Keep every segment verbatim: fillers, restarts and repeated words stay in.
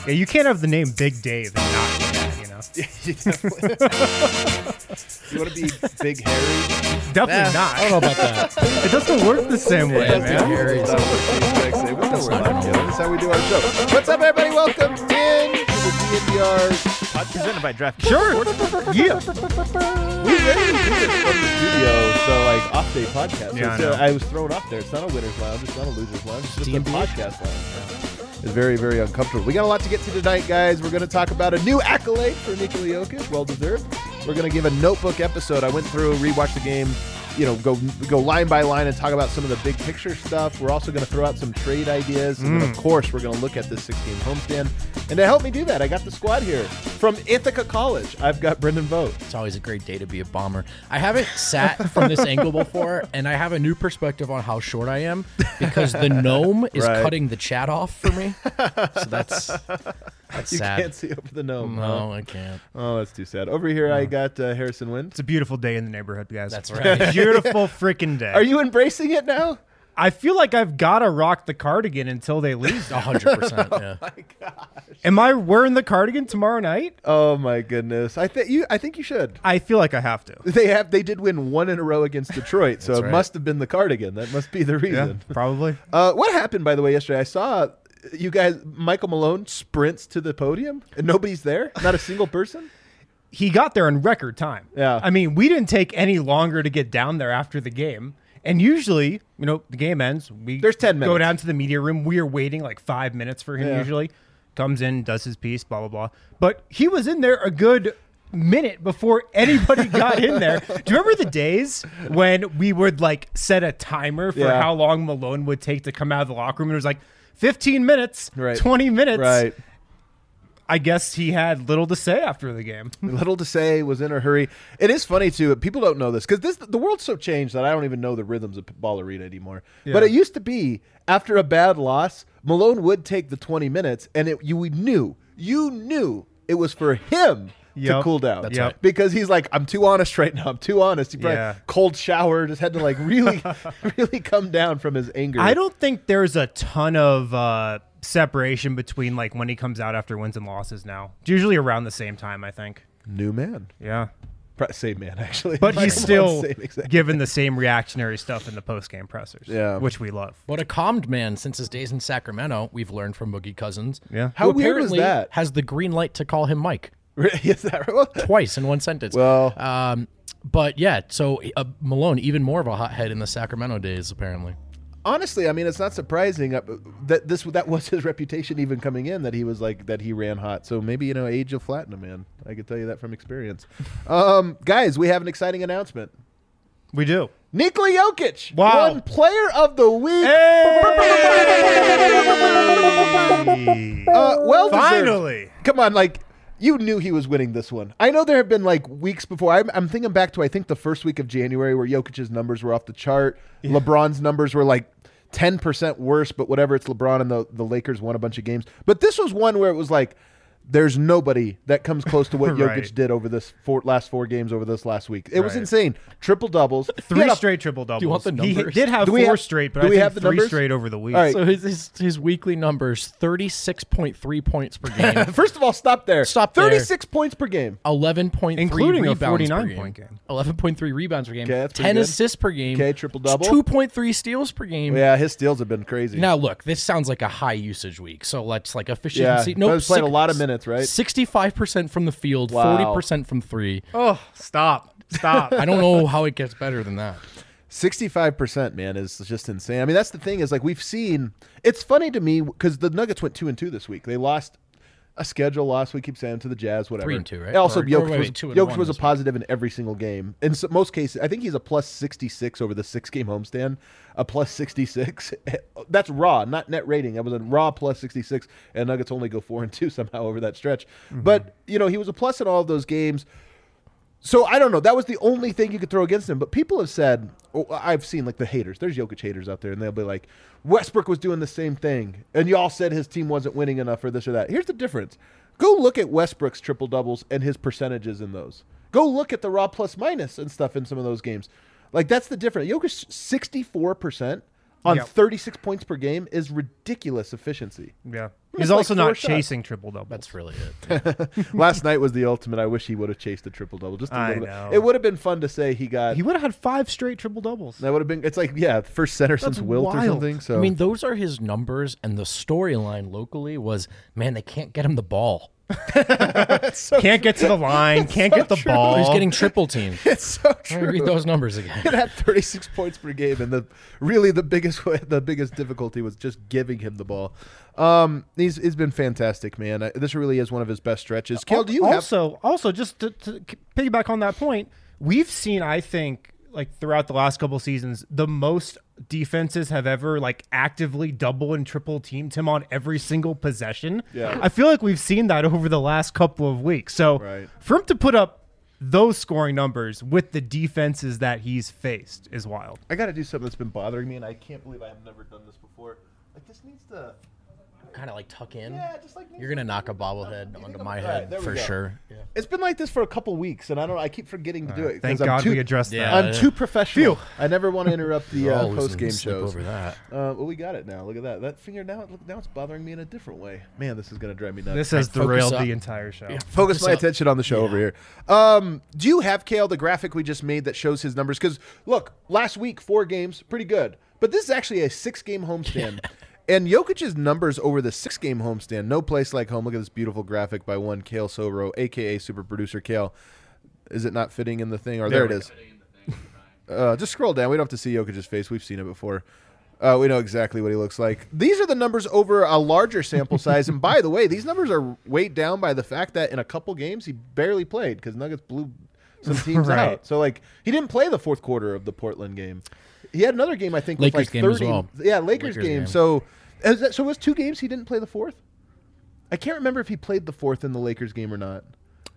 Yeah, you can't have the name Big Dave and not do that, you know? you definitely. You want to be Big Harry? Definitely Nah, not. I don't know about that. It doesn't work the same way, Yeah, man. Harry. It's not what the exact same. We know we're live, Joe. That's how we do our show. What's up, everybody? Welcome in to the D N V R podcast presented by DraftKings. Sure. Yeah. We rarely do this from the studio, so like off day podcast. So Yeah, I it's, uh, know. I was thrown off there. It's not a winner's lounge. It's not a loser's lounge. It's just D a and D? podcast lounge. It's very, very uncomfortable. We got a lot to get to tonight, guys. We're going to talk about a new accolade for Nikola Jokic. Well deserved. We're going to give a notebook episode. I went through, rewatched the game, you know, go go line by line and talk about some of the big picture stuff. We're also going to throw out some trade ideas. And then, of course, we're going to look at this six-game homestand. And to help me do that, I got the squad here. From Ithaca College, I've got Brendan Vogt. It's always a great day to be a bomber. I haven't sat from this angle before, and I have a new perspective on how short I am because the gnome is Right. cutting the chat off for me. So that's that's You sad. can't see over the gnome. No, I can't. Oh, that's too sad. Over here, I got uh, Harrison Wind. It's a beautiful day in the neighborhood, guys. That's right. Beautiful freaking day. Are you embracing it now? I feel like I've got to rock the cardigan until they leave. A hundred percent. Yeah. My gosh. Am I wearing the cardigan tomorrow night? Oh my goodness. I think you. I think you should. I feel like I have to. They have. They did win one in a row against Detroit, so That's it right. must have been the cardigan. That must be the reason. probably. Uh, what happened, by the way, yesterday? I saw you guys. Michael Malone sprints to the podium, and nobody's there. Not a single person. He got there in record time. Yeah. I mean, we didn't take any longer to get down there after the game. And usually, you know, the game ends. We There's ten go minutes. down to the media room. We are waiting like five minutes for him Yeah. usually. Comes in, does his piece, blah, blah, blah. But he was in there a good minute before anybody got in there. Do you remember the days when we would like set a timer for Yeah. how long Malone would take to come out of the locker room? And it was like fifteen minutes, Right. twenty minutes. Right. I guess he had little to say after the game. Little to say, was in a hurry. It is funny too. People don't know this because this the world's so changed that I don't even know the rhythms of Ball Arena anymore. Yeah. But it used to be after a bad loss, Malone would take the twenty minutes, and it you knew you knew it was for him to Yep. cool down. That's Yep. right. Because he's like, I'm too honest right now. I'm too honest. He probably Yeah. cold shower, just had to like really, really come down from his anger. I don't think there's a ton of uh, separation between like when he comes out after wins and losses now. It's usually around the same time, I think. New man, Yeah. Pro- same man actually. But he's Michael still Malone's same exact- given the same reactionary stuff in the post-game pressers, Yeah. which we love. What a calmed man since his days in Sacramento. We've learned from Boogie Cousins. Yeah. How who weird was apparently that? Has the green light to call him Mike Is that right? twice in one sentence. Well, Um, but yeah, so uh, Malone, even more of a hothead in the Sacramento days, apparently. honestly, I mean, it's not surprising uh, that this that was his reputation even coming in, that he was like that he ran hot. So maybe, you know, age will flatten a man. I can tell you that from experience. Um, guys, we have an exciting announcement. We do. Nikola Jokic Wow. won Player of the Week. Hey! Uh, well deserved. Finally. Come on, like, you knew he was winning this one. I know there have been like weeks before. I'm, I'm thinking back to I think the first week of January where Jokic's numbers were off the chart. LeBron's numbers were like ten percent worse, but whatever. It's LeBron and the, the Lakers won a bunch of games. But this was one where it was like, there's nobody that comes close to what Jokic Right. did over this four, last four games over this last week. It was Right. insane. Triple doubles. Three straight triple doubles. Do you want the He numbers? did have Do we four have- straight, but do I we think have the three numbers? straight over the week. All right. So his, his his weekly numbers: thirty-six point three points per game, First of all, stop there. Stop there. thirty-six points per game. eleven point three Including a rebounds per forty-nine game. point game. eleven point three rebounds per game. Okay, that's pretty ten good. assists per game. Okay, triple-double. two point three steals per game. Yeah, his steals have been crazy. Now look, this sounds like a high usage week, so let's like yeah, efficiency. he Nope, was playing a six- lot of minutes, right? sixty-five percent from the field, Wow. forty percent from three. Oh, stop. Stop. I don't know how it gets better than that. sixty-five percent, man, is just insane. I mean, that's the thing is like we've seen. It's funny to me because the Nuggets went two and two this week. They lost a schedule loss. We keep saying to the Jazz, whatever. Three and two, right? Also, Or- or Jokic wait, was, wait, two and Jokic one was a this week. positive in every single game. In so, most cases, I think he's a plus sixty-six over the six-game homestand. A plus sixty-six. That's raw, not net rating. That was a raw plus sixty-six, and Nuggets only go four and two somehow over that stretch. Mm-hmm. But you know, he was a plus in all of those games. So I don't know. That was the only thing you could throw against him. But people have said, oh, I've seen like the haters. There's Jokic haters out there, and they'll be like, Westbrook was doing the same thing, and y'all said his team wasn't winning enough or this or that. Here's the difference. Go look at Westbrook's triple doubles and his percentages in those. Go look at the raw plus minus and stuff in some of those games. Like that's the difference. Jokic sixty-four percent on Yep. thirty-six points per game is ridiculous efficiency. Yeah. He's like also four not shots. chasing triple doubles. That's really it. Last night was the ultimate. I wish he would have chased a triple double. Just a I little know. bit. It would have been fun to say he got. He would have had five straight triple doubles. that would have been. It's like yeah, first center since Wilt or wild. something. So I mean, those are his numbers, and the storyline locally was, man, they can't get him the ball. Can't get to the line. Can't so get the true. ball. He's getting triple teamed. it's so Let me true. read those numbers again. It had thirty-six points per game, and the really the biggest the biggest difficulty was just giving him the ball. Um, he's he's been fantastic, man. I, this really is one of his best stretches. Kale, do you have? also also just to, to piggyback on that point? We've seen, I think, like throughout the last couple seasons, the most defenses have ever like actively double and triple teamed him on every single possession. Yeah. I feel like we've seen that over the last couple of weeks. So Right. for him to put up those scoring numbers with the defenses that he's faced is wild. I got to do something that's been bothering me, and I can't believe I have never done this before. Like this needs to. Kind of like tuck in. Yeah, just like You're gonna knock a bobblehead You think onto I'm- my all right, head there we for go. sure. Yeah. It's been like this for a couple weeks, and I don't. I keep forgetting to do it. 'cause Thank I'm God too, we addressed Yeah. that. I'm too professional. Phew. I never want to interrupt the We're uh, all losing post game sleep shows. over that. Uh, well, we got it now. Look at that. That finger now. Look, now it's bothering me in a different way. Man, this is gonna drive me nuts. This has Focus derailed up. the entire show. Yeah. Focus Focus my up. attention on the show over here. Um, do you have, Kale, the graphic we just made that shows his numbers? Because look, last week four games, pretty good, but this is actually a six-game homestand. And Jokic's numbers over the six-game homestand, no place like home. Look at this beautiful graphic by one Kale Sobro, a k a. Super Producer Kale. Is it not fitting in the thing? Or there, There it we is. Uh, just scroll down. We don't have to see Jokic's face. We've seen it before. Uh, we know exactly what he looks like. These are the numbers over a larger sample size. And by the way, these numbers are weighed down by the fact that in a couple games he barely played because Nuggets blew some teams Right. out. So, like, he didn't play the fourth quarter of the Portland game. He had another game, I think, with Lakers like game as thirty. well. Yeah, Lakers, Lakers game. game. So, is that, so it was two games he didn't play the fourth? I can't remember if he played the fourth in the Lakers game or not.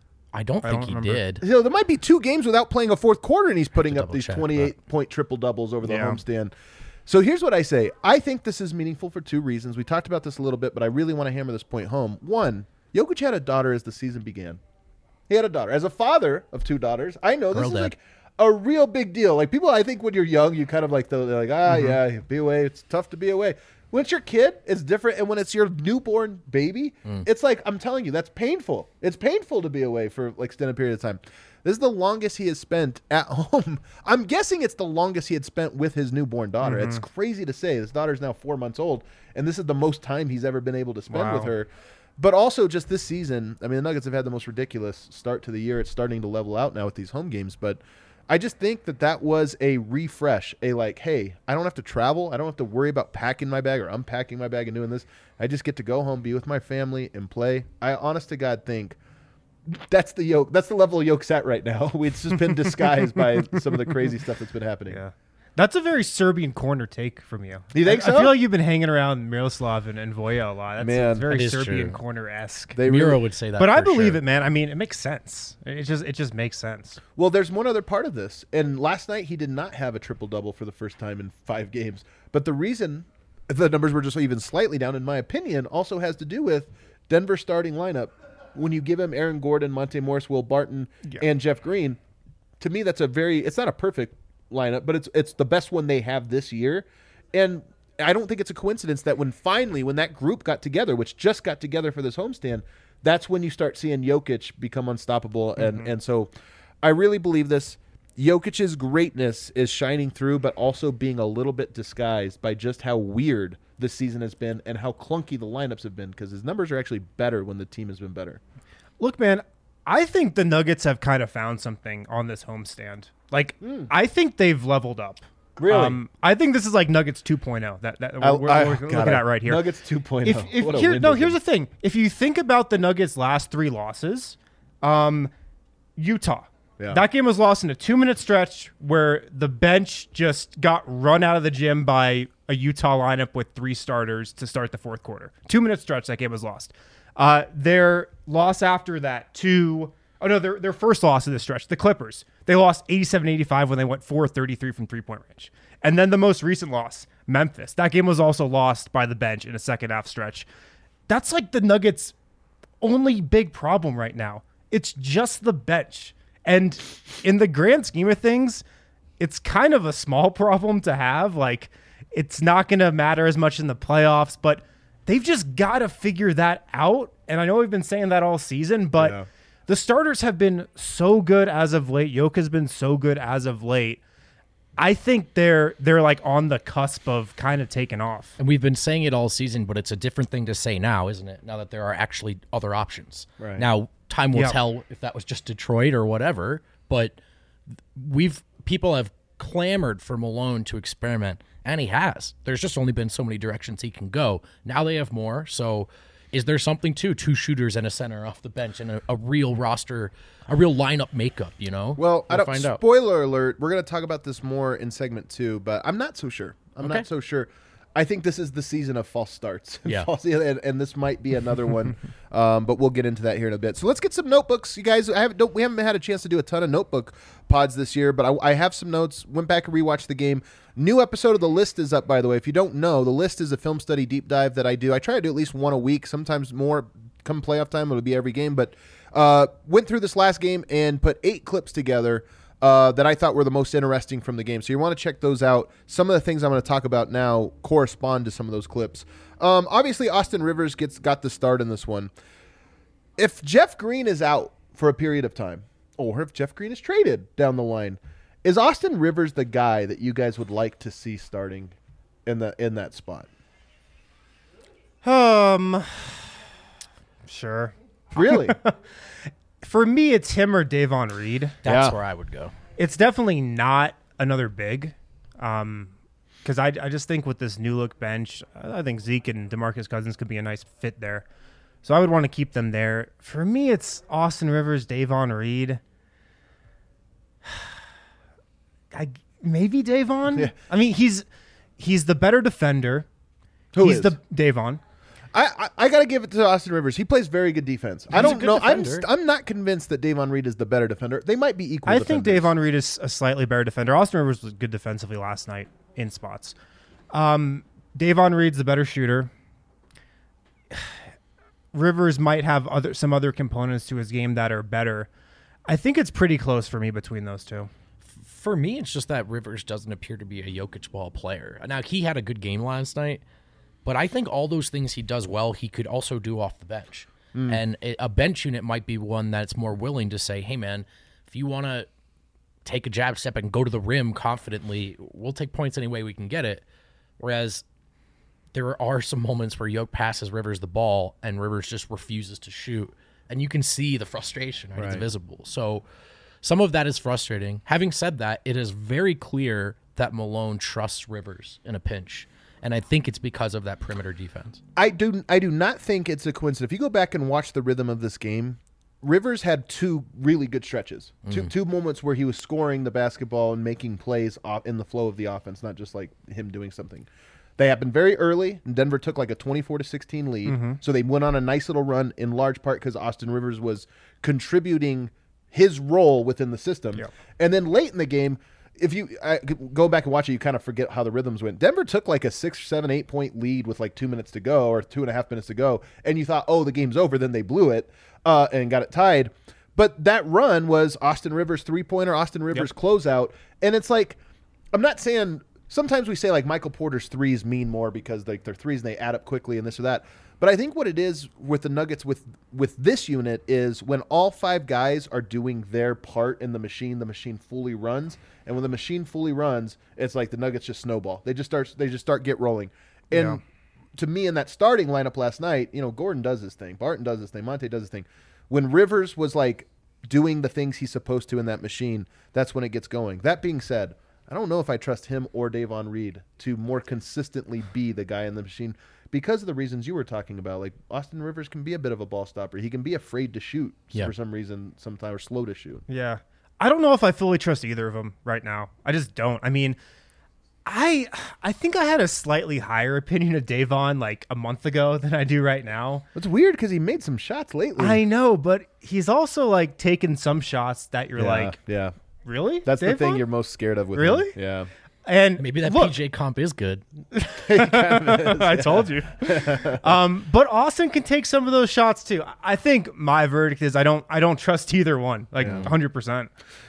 I don't I think don't he remember. did. You know, there might be two games without playing a fourth quarter, and he's putting to up these double-check, twenty-eight point triple doubles over the Yeah. homestand. So here's what I say. I think this is meaningful for two reasons. We talked about this a little bit, but I really want to hammer this point home. One, Jokic had a daughter as the season began. He had a daughter. As a father of two daughters, I know this Girl is dad. like a real big deal. Like people, I think when you're young, you kind of like, they're like, ah, yeah, be away. It's tough to be away. When it's your kid, it's different. And when it's your newborn baby, it's like, I'm telling you, that's painful. It's painful to be away for like extended period of time. This is the longest he has spent at home. I'm guessing it's the longest he had spent with his newborn daughter. It's crazy to say. His daughter's now four months old, and this is the most time he's ever been able to spend Wow. with her. But also just this season, I mean, the Nuggets have had the most ridiculous start to the year. It's starting to level out now with these home games, but I just think that that was a refresh, a like, hey, I don't have to travel. I don't have to worry about packing my bag or unpacking my bag and doing this. I just get to go home, be with my family, and play. I honest to God think that's the yoke. That's the level of yoke's at right now. It's just been disguised by some of the crazy stuff that's been happening. Yeah. That's a very Serbian corner take from you. You think I, so? I feel like you've been hanging around Miroslav and, and Voya a lot. That's Man, it's very that is Serbian true. corner-esque. They Miro really- would say that. But I for believe sure. it, man. I mean, it makes sense. It just it just makes sense. Well, there's one other part of this. And last night he did not have a triple-double for the first time in five games. But the reason the numbers were just even slightly down, in my opinion, also has to do with Denver's starting lineup. When you give him Aaron Gordon, Monte Morris, Will Barton, Yeah. and Jeff Green, to me that's a very – it's not a perfect lineup, but it's it's the best one they have this year. And I don't think it's a coincidence that when finally, when that group got together, which just got together for this homestand, that's when you start seeing Jokic become unstoppable. And, and so I really believe this. Jokic's greatness is shining through, but also being a little bit disguised by just how weird this season has been and how clunky the lineups have been, because his numbers are actually better when the team has been better. Look, man, I think the Nuggets have kind of found something on this homestand. Like, I think they've leveled up. Really? I think this is like Nuggets two point oh that, that I- we're, I- we're God, looking I- at right here. Nuggets two point oh. If, if What a here, window no, here's game. the thing. If you think about the Nuggets' last three losses, um, Utah. Yeah. That game was lost in a two-minute stretch where the bench just got run out of the gym by a Utah lineup with three starters to start the fourth quarter. Two-minute stretch, that game was lost. Uh, their loss after that to – oh, no, their, their first loss of the stretch, the Clippers. They lost eighty-seven eighty-five when they went four thirty-three from three-point range. And then the most recent loss, Memphis. That game was also lost by the bench in a second-half stretch. That's like the Nuggets' only big problem right now. It's just the bench. And in the grand scheme of things, it's kind of a small problem to have. Like, it's not going to matter as much in the playoffs, but they've just got to figure that out. And I know we've been saying that all season, but Yeah. the starters have been so good as of late. Yoke has been so good as of late. I think they're they're like on the cusp of kind of taking off. And we've been saying it all season, but it's a different thing to say now, isn't it? Now that there are actually other options. Right. Now, time will Yep. tell if that was just Detroit or whatever, but we've people have clamored for Malone to experiment, and he has. There's just only been so many directions he can go. Now they have more, so is there something to two shooters and a center off the bench and a, a real roster, a real lineup makeup, you know? Well, I We'll don't. find out. Spoiler alert: we're going to talk about this more in segment two, but I'm not so sure. I'm Okay. not so sure. I think this is the season of false starts. Yeah. False- and, and this might be another one, um, but we'll get into that here in a bit. So let's get some notebooks, you guys. I haven't, don't, we haven't had a chance to do a ton of notebook pods this year, but I, I have some notes. Went back and rewatched the game. New episode of The List is up, by the way. If you don't know, The List is a film study deep dive that I do. I try to do at least one a week, sometimes more. Come playoff time, it'll be every game. But uh, went through this last game and put eight clips together uh, that I thought were the most interesting from the game. So you want to check those out. Some of the things I'm going to talk about now correspond to some of those clips. Um, obviously, Austin Rivers gets got the start in this one. If Jeff Green is out for a period of time, or if Jeff Green is traded down the line, is Austin Rivers the guy that you guys would like to see starting in the in that spot? Um, sure. Really? For me, it's him or Davon Reed. That's Yeah. where I would go. It's definitely not another big. Um, because I, I just think with this new look bench, I think Zeke and DeMarcus Cousins could be a nice fit there. So I would want to keep them there. For me, it's Austin Rivers, Davon Reed. I maybe Davon. Yeah. I mean, he's he's the better defender. Who he's is? the Davon. I, I, I got to give it to Austin Rivers. He plays very good defense. I He's a don't good know. I'm defender. st- I'm not convinced that Davon Reed is the better defender. They might be equal. I think defenders. Davon Reed is a slightly better defender. Austin Rivers was good defensively last night in spots. Um, Davon Reed's the better shooter. Rivers might have other some other components to his game that are better. I think it's pretty close for me between those two. For me, it's just that Rivers doesn't appear to be a Jokic ball player. Now, he had a good game last night, but I think all those things he does well, he could also do off the bench. Mm. And a a bench unit might be one that's more willing to say, hey, man, if you want to take a jab step and go to the rim confidently, we'll take points any way we can get it. Whereas there are some moments where Yoke passes Rivers the ball and Rivers just refuses to shoot. And you can see the frustration, right? It's Right. visible. So some of that is frustrating. Having said that, it is very clear that Malone trusts Rivers in a pinch. And I think it's because of that perimeter defense. I do I do not think it's a coincidence. If you go back and watch the rhythm of this game, Rivers had two really good stretches. Two two moments where he was scoring the basketball and making plays off in the flow of the offense, not just like him doing something. They happened very early, and Denver took like a twenty-four to sixteen lead. So they went on a nice little run in large part because Austin Rivers was contributing his role within the system. Yep. And then late in the game, if you uh, go back and watch it, you kind of forget how the rhythms went. Denver took like a six, seven, eight point lead with like two minutes to go or two and a half minutes to go, and you thought, oh, the game's over. Then they blew it uh, and got it tied. But that run was Austin Rivers three pointer, Austin Rivers closeout, and it's like, I'm not saying. Sometimes we say like Michael Porter's threes mean more because like they're threes and they add up quickly and this or that. But I think what it is with the Nuggets with with this unit is when all five guys are doing their part in the machine, the machine fully runs. And when the machine fully runs, it's like the Nuggets just snowball. They just start they just start get rolling. And Yeah. to me in that starting lineup last night, you know, Gordon does his thing, Barton does his thing, Monte does his thing. When Rivers was like doing the things he's supposed to in that machine, that's when it gets going. That being said, I don't know if I trust him or Davon Reed to more consistently be the guy in the machine because of the reasons you were talking about. Like Austin Rivers can be a bit of a ball stopper. He can be afraid to shoot Yeah. for some reason sometimes, or slow to shoot. Yeah. I don't know if I fully trust either of them right now. I just don't. I mean, I I think I had a slightly higher opinion of Davon like a month ago than I do right now. It's weird because he made some shots lately. I know, but he's also like taken some shots that you're yeah, like, yeah. really? That's the thing Davon? you're most scared of with Really? him. Yeah. And Maybe that look, P J comp is good. I told you. um, but Austin can take some of those shots too. I think my verdict is I don't I don't trust either one, like Yeah. one hundred percent.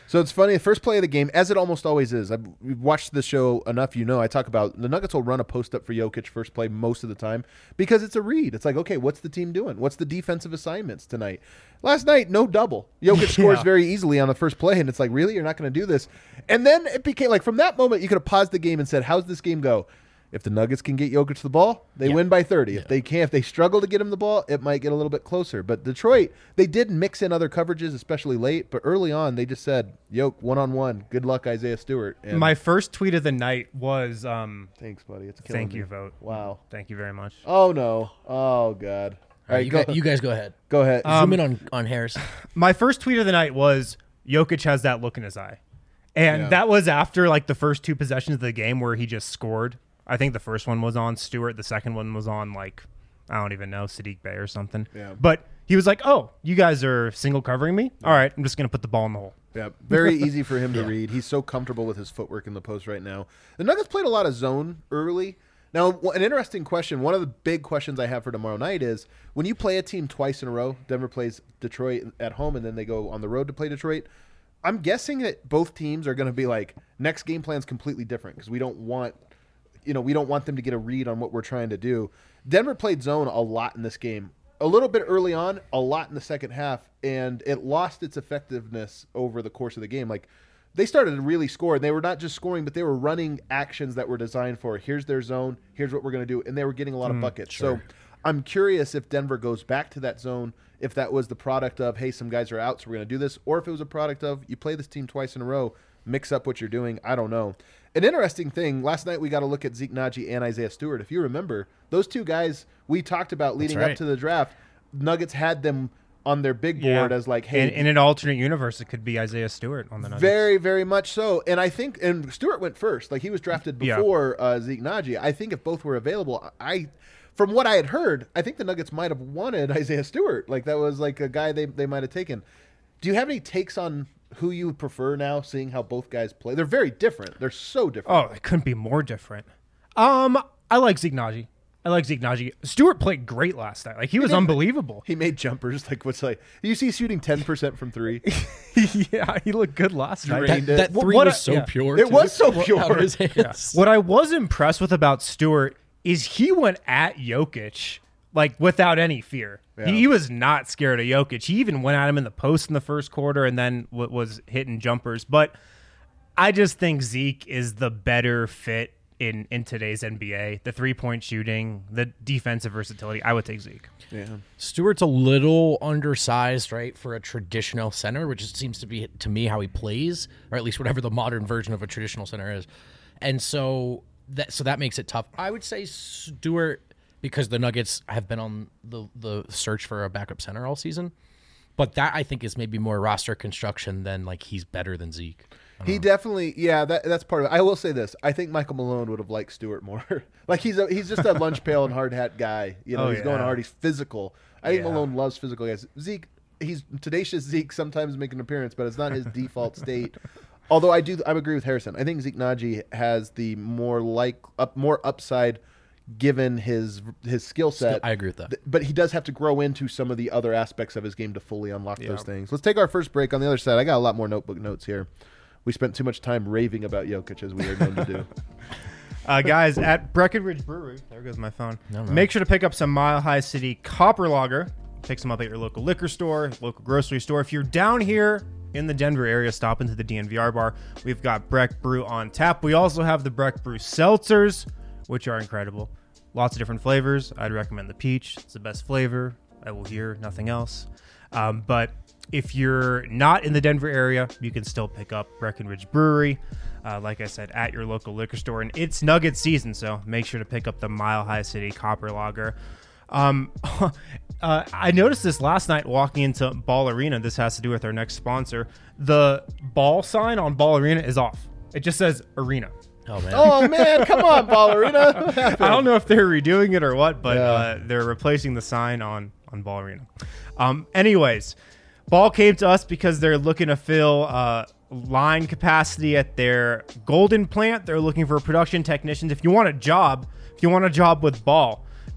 So it's funny, the first play of the game, as it almost always is. I've we've watched the show enough, you know. I talk about the Nuggets will run a post up for Jokic first play most of the time because it's a read. It's like, okay, what's the team doing? What's the defensive assignments tonight? Last night, no double. Jokic scores Yeah. very easily on the first play, and it's like, really? You're not going to do this? And then it became like, from that moment, you could have paused the game and said, how's this game go? If the Nuggets can get Jokic the ball, they Yeah. win by thirty. If Yeah. they can't, if they struggle to get him the ball, it might get a little bit closer. But Detroit, they did mix in other coverages, especially late. But early on, they just said, "Yoke, one on one. Good luck, Isaiah Stewart." And My first tweet of the night was, um, thanks, buddy. It's killing thank me. you, vote. Wow. Thank you very much. Oh no. Oh god. All right, you, go, guys, you guys go ahead. go ahead. Zoom in on, on Harris. My first tweet of the night was Jokic has that look in his eye. And Yeah. that was after like the first two possessions of the game where he just scored. I think the first one was on Stewart. The second one was on like, I don't even know, Sadiq Bey or something. Yeah. But he was like, oh, you guys are single covering me? All right, I'm just going to put the ball in the hole. Yeah, very easy for him to Yeah. read. He's so comfortable with his footwork in the post right now. The Nuggets played a lot of zone early. Now, wh- an interesting question, one of the big questions I have for tomorrow night is, when you play a team twice in a row, Denver plays Detroit at home and then they go on the road to play Detroit, I'm guessing that both teams are going to be like, next game plan's completely different because we don't want, you know, we don't want them to get a read on what we're trying to do. Denver played zone a lot in this game. A little bit early on, a lot in the second half, and it lost its effectiveness over the course of the game. Like, they started to really score, and they were not just scoring, but they were running actions that were designed for, here's their zone, here's what we're going to do, and they were getting a lot of buckets. sure. So I'm curious if Denver goes back to that zone, if that was the product of, hey, some guys are out, so we're going to do this, or if it was a product of, you play this team twice in a row, mix up what you're doing. I don't know. An interesting thing, last night we got to look at Zeke Naji and Isaiah Stewart. If you remember, those two guys we talked about leading right. up to the draft, Nuggets had them on their big board as like, hey, in, in an alternate universe, it could be Isaiah Stewart on the Nuggets. very, very much so. And I think, and Stewart went first. Like, he was drafted Yeah. before uh, Zeke Naji. I think if both were available, I, from what I had heard, I think the Nuggets might have wanted Isaiah Stewart. Like, that was like a guy they, they might have taken. Do you have any takes on who you would prefer now, seeing how both guys play? They're very different. They're so different. Oh, it couldn't be more different. Um, I like Zeke Naji. I like Zeke Naji. Stewart played great last night. Like, he was did. unbelievable. He made jumpers. Like, what's like, you see shooting ten percent from three? Yeah, he looked good last night. Drained That, it. that What- three what was I- so yeah. pure. It too. was so Out pure. of his hands. What I was impressed with about Stewart is he went at Jokic like without any fear. Yeah. He, he was not scared of Jokic. He even went at him in the post in the first quarter and then w- was hitting jumpers. But I just think Zeke is the better fit in, in today's N B A. The three-point shooting, the defensive versatility. I would take Zeke. Yeah. Stewart's a little undersized, right, for a traditional center, which it seems to be, to me, how he plays, or at least whatever the modern version of a traditional center is. And so that so that makes it tough. I would say Stewart, because the Nuggets have been on the, the search for a backup center all season. But that, I think, is maybe more roster construction than, like, he's better than Zeke. He definitely, yeah, that that's part of it. I will say this: I think Michael Malone would have liked Stewart more. Like, he's a, he's just a lunch pail and hard hat guy. You know, Oh, he's going yeah. hard. He's physical. I think Yeah. Malone loves physical guys. Zeke, he's tenacious. Zeke sometimes make an appearance, but it's not his default state. Although I do, I agree with Harrison. I think Zeke Naji has the more like up, more upside given his his skill set. I agree with that. Th- But he does have to grow into some of the other aspects of his game to fully unlock Yeah. those things. Let's take our first break. On the other side, I got a lot more notebook notes here. We spent too much time raving about Jokic, as we are known to do. Uh, guys, at Breckenridge Brewery, there goes my phone. No, no. Make sure to pick up some Mile High City Copper Lager. Pick some up at your local liquor store, local grocery store. If you're down here in the Denver area, stop into the D N V R bar. We've got Breck Brew on tap. We also have the Breck Brew seltzers, which are incredible. Lots of different flavors. I'd recommend the peach. It's the best flavor. I will hear nothing else. Um, but if you're not in the Denver area, you can still pick up Breckenridge Brewery. Uh, like I said, at your local liquor store. And it's Nugget season, so make sure to pick up the Mile High City Copper Lager. Um, uh, I noticed this last night walking into Ball Arena. This has to do with our next sponsor. The ball sign on Ball Arena is off. It just says Arena. Oh, man. Oh, man, come on, Ballerina. I don't know if they're redoing it or what, but Yeah. uh, they're replacing the sign on, on Ball Arena. Um, anyways, Ball came to us because they're looking to fill uh, line capacity at their Golden plant. They're looking for production technicians. If you want a job, if you want a job with Ball,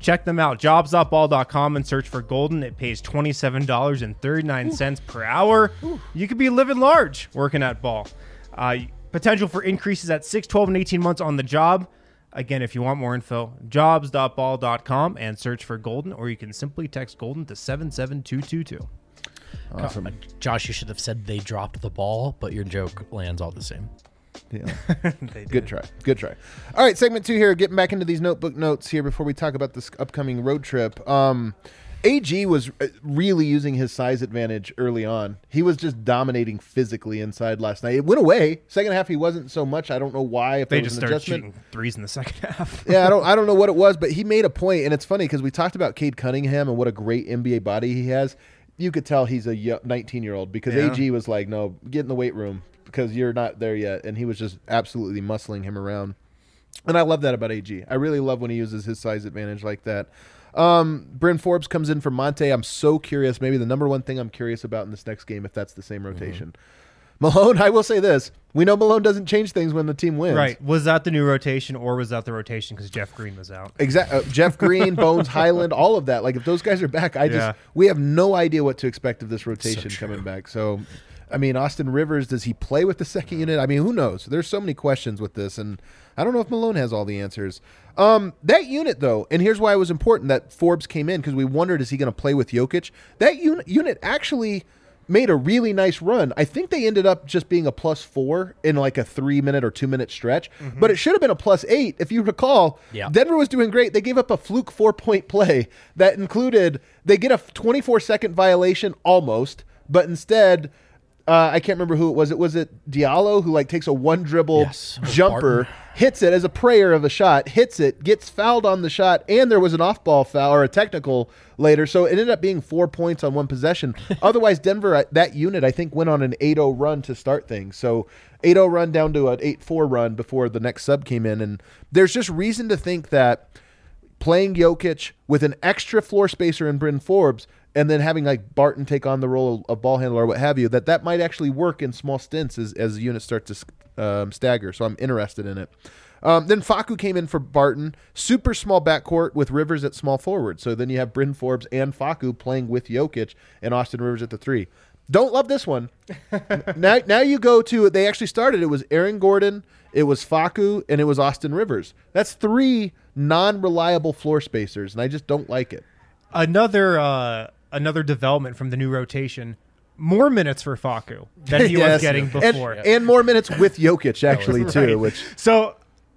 check them out. jobs dot ball dot com and search for Golden. It pays twenty-seven dollars and thirty-nine cents per hour. Ooh. You could be living large working at Ball. Uh, potential for increases at six, twelve, and eighteen months on the job. Again, if you want more info, jobs dot ball dot com and search for Golden, or you can simply text Golden to seven seven two two two. Awesome. Uh, Josh, you should have said they dropped the ball, but your joke lands all the same. Yeah. Good try. Good try. All right, segment two here. Getting back into these notebook notes here before we talk about this upcoming road trip. Um, A G was really using his size advantage early on. He was just dominating physically inside last night. It went away. Second half, he wasn't so much. I don't know why. If they there just was an started adjustment. shooting threes in the second half. yeah, I don't. I don't know what it was, but he made a point, and it's funny because we talked about Cade Cunningham and what a great N B A body he has. You could tell he's a nineteen-year-old because yeah. A G was like, "No, get in the weight room because you're not there yet," and he was just absolutely muscling him around. And I love that about A G. I really love when he uses his size advantage like that. Um, Bryn Forbes comes in for Monte. I'm so curious. Maybe the number one thing I'm curious about in this next game, if that's the same rotation. Mm-hmm. Malone, I will say this. We know Malone doesn't change things when the team wins. Right. Was that the new rotation or was that the rotation because Jeff Green was out? Exactly. Uh, Jeff Green, Bones Highland, all of that. Like, if those guys are back, I just yeah. we have no idea what to expect of this rotation so coming back. So, I mean, Austin Rivers, does he play with the second unit? I mean, who knows? There's so many questions with this, and I don't know if Malone has all the answers. Um, that unit, though, and here's why it was important that Forbes came in, because we wondered, is he going to play with Jokic? That un- unit actually made a really nice run. I think they ended up just being a plus four in like a three-minute or two-minute stretch, mm-hmm. but it should have been a plus eight. If you recall, yeah. Denver was doing great. They gave up a fluke four-point play that included they get a twenty-four second violation almost, but instead – Uh, I can't remember who it was. It was it Diallo who like takes a one dribble yes. jumper, Barton. hits it as a prayer of a shot, hits it, gets fouled on the shot, and there was an off ball foul or a technical later. So it ended up being four points on one possession. Otherwise, Denver, that unit, I think, went on an eight oh run to start things. So eight oh run down to an eight four run before the next sub came in. And there's just reason to think that playing Jokic with an extra floor spacer in Bryn Forbes and then having like Barton take on the role of ball handler or what have you, that that might actually work in small stints as, as units start to um, stagger. So I'm interested in it. Um, then Facu came in for Barton. Super small backcourt with Rivers at small forward. So then you have Bryn Forbes and Facu playing with Jokic and Austin Rivers at the three. Don't love this one. now, now you go to, they actually started, it was Aaron Gordon, it was Facu, and it was Austin Rivers. That's three non-reliable floor spacers, and I just don't like it. Another uh, another development from the new rotation, more minutes for Facu than he yes. was getting before. And, and more minutes with Jokic, actually, right. too. Which So,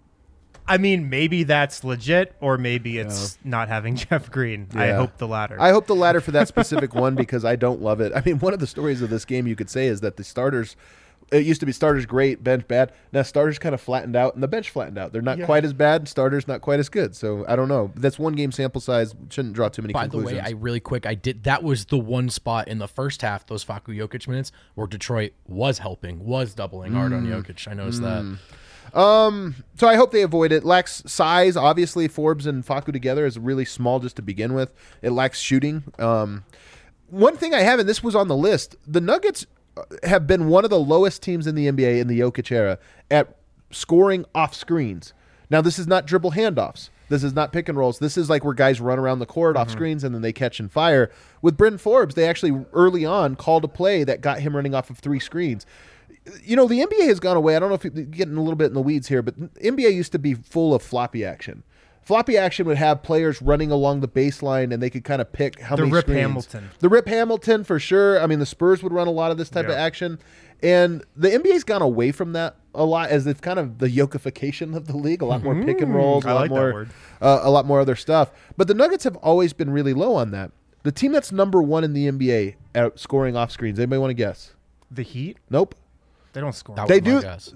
I mean, maybe that's legit, or maybe it's yeah. not having Jeff Green. Yeah. I hope the latter. I hope the latter for that specific one because I don't love it. I mean, one of the stories of this game you could say is that the starters, it used to be starters great, bench bad. Now starters kind of flattened out and the bench flattened out. They're not yeah. quite as bad, starters not quite as good. So I don't know. That's one game sample size. Shouldn't draw too many By conclusions. By the way, I really quick, I did. That was the one spot in the first half, those Facu Jokic minutes, where Detroit was helping, was doubling hard mm. on Jokic. I noticed mm. that. Um, so I hope they avoid it. Lacks size. Obviously, Forbes and Facu together is really small just to begin with. It lacks shooting. Um, one thing I have, and this was on the list, the Nuggets have been one of the lowest teams in the N B A in the Jokic era at scoring off screens. Now, this is not dribble handoffs. This is not pick and rolls. This is like where guys run around the court mm-hmm. off screens and then they catch and fire. With Bryn Forbes, they actually early on called a play that got him running off of three screens. You know, the N B A has gone away. I don't know if you're getting a little bit in the weeds here, but N B A used to be full of floppy action. Floppy action would have players running along the baseline, and they could kind of pick how the many Rip screens. Hamilton. The Rip Hamilton, for sure. I mean, the Spurs would run a lot of this type yeah. of action. And the N B A's gone away from that a lot as it's kind of the yokification of the league. A lot more pick and rolls, a I lot like more, that word. Uh, a lot more other stuff. But the Nuggets have always been really low on that. The team that's number one in the N B A at scoring off screens. Anybody want to guess? The Heat? Nope. They don't score. That they was do. my guess.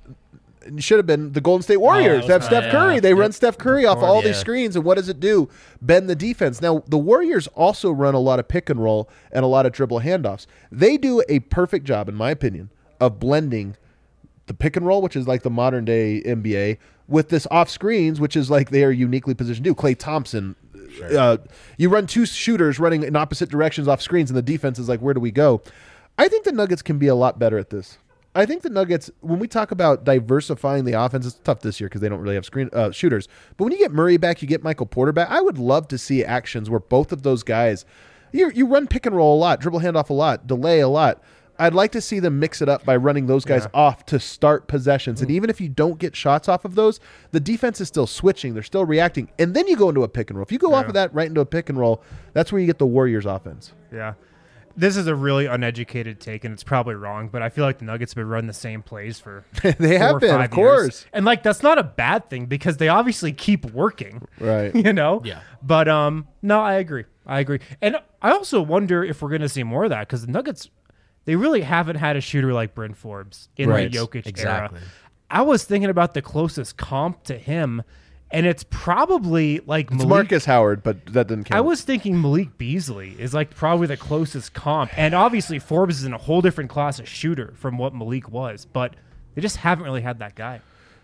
It should have been the Golden State Warriors. Oh, they have Steph yeah. Curry. They Yep. run Steph Curry off all Yeah. these screens, and what does it do? Bend the defense. Now, the Warriors also run a lot of pick and roll and a lot of dribble handoffs. They do a perfect job, in my opinion, of blending the pick and roll, which is like the modern day N B A, with this off screens, which is like they are uniquely positioned to do. Klay Thompson. Sure. Uh, you run two shooters running in opposite directions off screens, and the defense is like, where do we go? I think the Nuggets can be a lot better at this. I think the Nuggets, when we talk about diversifying the offense, it's tough this year because they don't really have screen uh, shooters. But when you get Murray back, you get Michael Porter back. I would love to see actions where both of those guys, you, you run pick and roll a lot, dribble handoff a lot, delay a lot. I'd like to see them mix it up by running those guys Yeah. off to start possessions. And even if you don't get shots off of those, the defense is still switching. They're still reacting. And then you go into a pick and roll. If you go off Yeah. of that right into a pick and roll, that's where you get the Warriors offense. Yeah. This is a really uneducated take, and it's probably wrong, but I feel like the Nuggets have been running the same plays for They four have or been, five of course. years. And, like, that's not a bad thing because they obviously keep working. Right. You know? Yeah. But, um, no, I agree. I agree. And I also wonder if we're going to see more of that because the Nuggets, they really haven't had a shooter like Bryn Forbes in Right. the Jokic Exactly. era. I was thinking about the closest comp to him, and it's probably like It's Malik. Marcus Howard, but that doesn't count. I was thinking Malik Beasley is like probably the closest comp. And obviously Forbes is in a whole different class of shooter from what Malik was, but they just haven't really had that guy.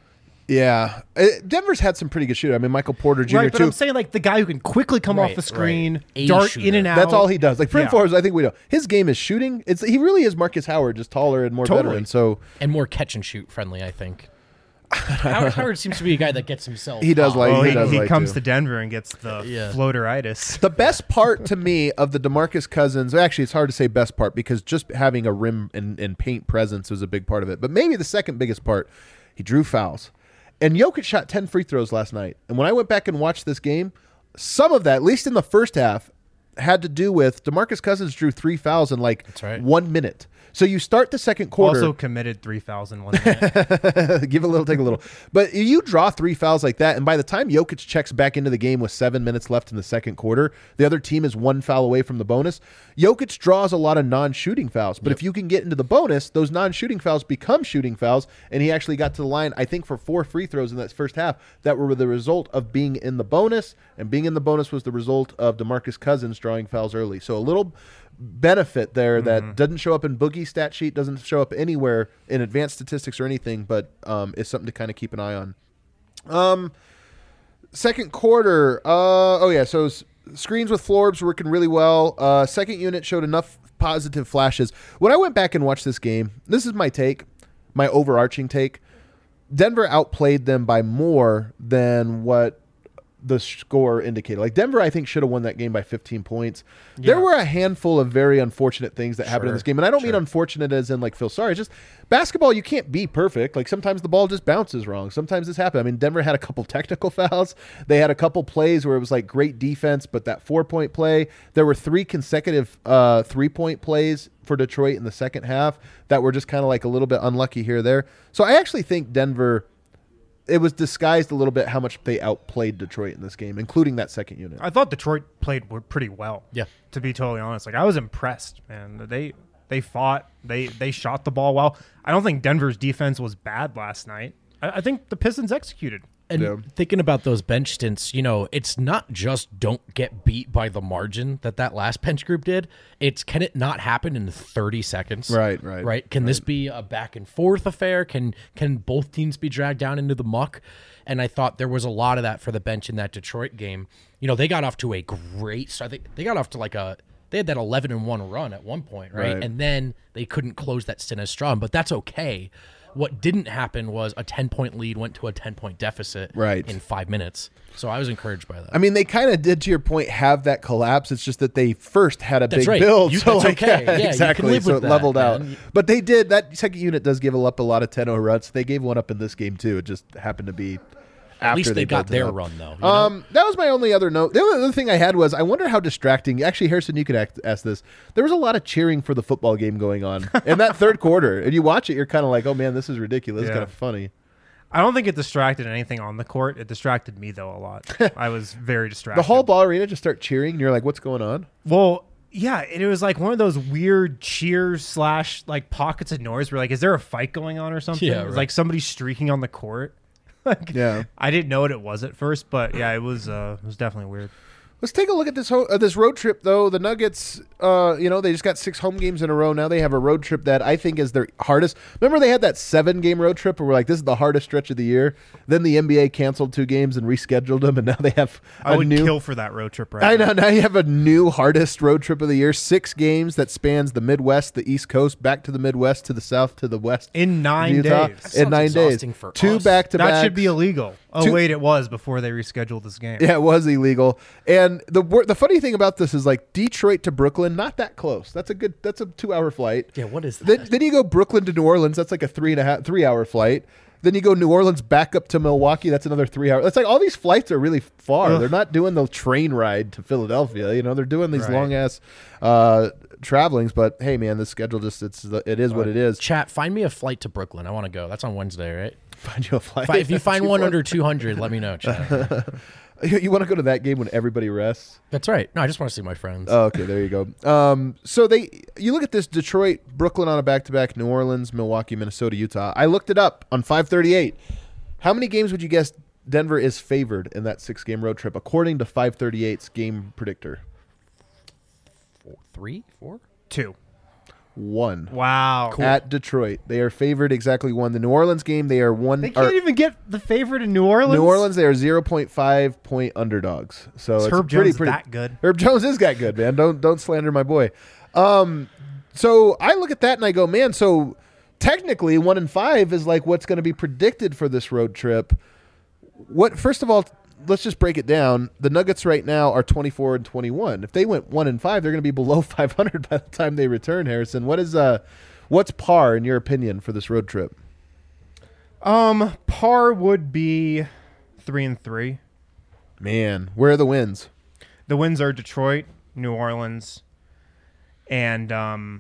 Yeah. Uh, Denver's had some pretty good shooters. I mean, Michael Porter Junior Right, but too. I'm saying like the guy who can quickly come Right, off the screen, right. A dart shooter. in and out. That's all he does. Like Bryn Yeah. Forbes, I think we know. His game is shooting. It's He really is Marcus Howard, just taller and more Totally. veteran. So And more catch and shoot friendly, I think. Howard, Howard seems to be a guy that gets himself. He does hot. like- Oh, he he, does he like comes to. to Denver and gets the Yeah. floateritis. the best part to me of the DeMarcus Cousins, actually it's hard to say best part because just having a rim and, and paint presence was a big part of it. But maybe the second biggest part, he drew fouls. And Jokic shot ten free throws last night. And when I went back and watched this game, some of that, at least in the first half, had to do with DeMarcus Cousins drew three fouls in like That's right. one minute. So you start the second quarter. Also committed three thousand one minute. Give a little, take a little. But you draw three fouls like that, and by the time Jokic checks back into the game with seven minutes left in the second quarter, the other team is one foul away from the bonus. Jokic draws a lot of non-shooting fouls. But if you can get into the bonus, those non-shooting fouls become shooting fouls, and he actually got to the line, I think, for four free throws in that first half that were the result of being in the bonus, and being in the bonus was the result of DeMarcus Cousins drawing fouls early. So a little benefit there that Mm-hmm. doesn't show up in Boogie stat sheet, doesn't show up anywhere in advanced statistics or anything, but um, is something to kind of keep an eye on. Um, second quarter, uh, oh yeah, so s- screens with Forbes working really well. Uh, second unit showed enough positive flashes. When I went back and watched this game, this is my take, my overarching take. Denver outplayed them by more than what the score indicated. Like Denver, I think, should have won that game by fifteen points. There Yeah. were a handful of very unfortunate things that happened in Sure, this game. And I don't mean sure. unfortunate as in like feel sorry. It's just basketball, you can't be perfect. Like sometimes the ball just bounces wrong. Sometimes this happens. I mean, Denver had a couple technical fouls. They had a couple plays where it was like great defense, but that four-point play, there were three consecutive uh, three-point plays for Detroit in the second half that were just kind of like a little bit unlucky here or there. So I actually think Denver, it was disguised a little bit how much they outplayed Detroit in this game, including that second unit. I thought Detroit played w- pretty well. Yeah. To be totally honest, like I was impressed, man. They they fought. They they shot the ball well. I don't think Denver's defense was bad last night. I, I think the Pistons executed. And Yeah. thinking about those bench stints, you know, it's not just don't get beat by the margin that that last bench group did. It's can it not happen in thirty seconds? Right, right, Right? Can this be a back and forth affair? Can can both teams be dragged down into the muck? And I thought there was a lot of that for the bench in that Detroit game. You know, they got off to a great start. They, they got off to like a they had that eleven and one run at one point, right? Right. And then they couldn't close that stint as strong, but that's okay. What didn't happen was a ten-point lead went to a ten-point deficit Right. in five minutes. So I was encouraged by that. I mean, they kind of did, to your point, have that collapse. It's just that they first had a That's big right. build. You- so that's like, okay. Yeah, you can exactly. live so with it that, leveled out. man. But they did, that second unit does give up a lot of ten oh runs. They gave one up in this game, too. It just happened to be after At least they, got built it their up. run, though. you know? Um, that was my only other note. The only other thing I had was I wonder how distracting. Actually, Harrison, you could act, ask this. There was a lot of cheering for the football game going on in that third quarter, and you watch it, you're kind of like, "Oh man, this is ridiculous. It's Yeah. kind of funny." I don't think it distracted anything on the court. It distracted me though a lot. I was very distracted. The whole ball arena just start cheering, and you're like, "What's going on?" Well, yeah, it was like one of those weird cheers slash like pockets of noise where like, is there a fight going on or something? Yeah, It's right. like somebody streaking on the court. Like, Yeah. I didn't know what it was at first, but yeah, it was uh, it was definitely weird. Let's take a look at this ho- uh, this road trip, though. The Nuggets, uh, you know, they just got six home games in a row. Now they have a road trip that I think is their hardest. Remember they had that seven-game road trip where we're like, this is the hardest stretch of the year? Then the N B A canceled two games and rescheduled them, and now they have a I would new... kill for that road trip right I now. know. Now you have a new hardest road trip of the year. Six games that spans the Midwest, the East Coast, back to the Midwest, to the South, to the West. In nine Utah. days. That In sounds nine days. exhausting for Two us. back-to-backs. That should be illegal. Oh, Two- wait, it was before they rescheduled this game. Yeah, it was illegal. And the wor- the funny thing about this is like Detroit to Brooklyn, not that close. That's a good. That's a two hour flight. Yeah, what is that? Then, then you go Brooklyn to New Orleans. That's like a three and a half, three hour flight. Then you go New Orleans back up to Milwaukee. That's another three hours. It's like all these flights are really far. Ugh. They're not doing the train ride to Philadelphia. You know, they're doing these Right. long ass uh, travelings. But hey, man, the schedule just it's it is what it is. Chat, find me a flight to Brooklyn. I want to go. That's on Wednesday, right? Find you a flight. Fi- If you find Two one four- under two hundred, let me know, chat. you, you want to go to that game when everybody rests? That's right. No, I just want to see my friends. Oh, okay, there you go. Um, so they, you look at this: Detroit, Brooklyn on a back-to-back, New Orleans, Milwaukee, Minnesota, Utah. I looked it up on five thirty-eight. How many games would you guess Denver is favored in that six-game road trip, according to five thirty-eight's game predictor? Four, three, four? Two. One. Wow. At Detroit, they are favored exactly one. The New Orleans game, they are one. They or- can't even get the favorite in New Orleans. New Orleans, they are zero point five point underdogs. So Is it's Herb pretty, Jones pretty, that good? Herb Jones is that good, man. Don't don't slander my boy. Um, so I look at that and I go, man. So technically, one and five is like what's going to be predicted for this road trip. What first of all, let's just break it down. The Nuggets right now are twenty-four and twenty-one. If they went one and five, they're going to be below five hundred by the time they return. Harrison, what is uh, what's par in your opinion for this road trip? Um, par would be three and three. Man, where are the wins? The wins are Detroit, New Orleans, and um,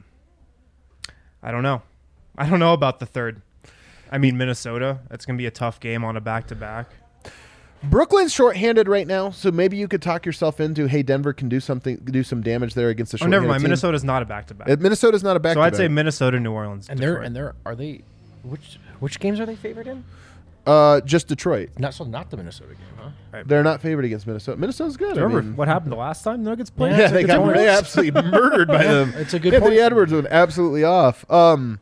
I don't know. I don't know about the third. I mean, Minnesota. That's going to be a tough game on a back-to-back. Brooklyn's shorthanded right now, so maybe you could talk yourself into, hey, Denver can do something, do some damage there against the Oh, shorthanded never mind. team. Minnesota's not a back-to-back. Uh, Minnesota's not a back. So I'd say Minnesota, New Orleans, And they're Detroit. and they're are they which which games are they favored in? uh, just Detroit. Not so not the Minnesota game, huh? They're not favored against Minnesota. Minnesota's good. I Remember mean, what happened the last time the Nuggets played? Yeah, yeah, it's a they good got point. they absolutely murdered by them. It's a good Anthony point. Edwards went absolutely off. Um,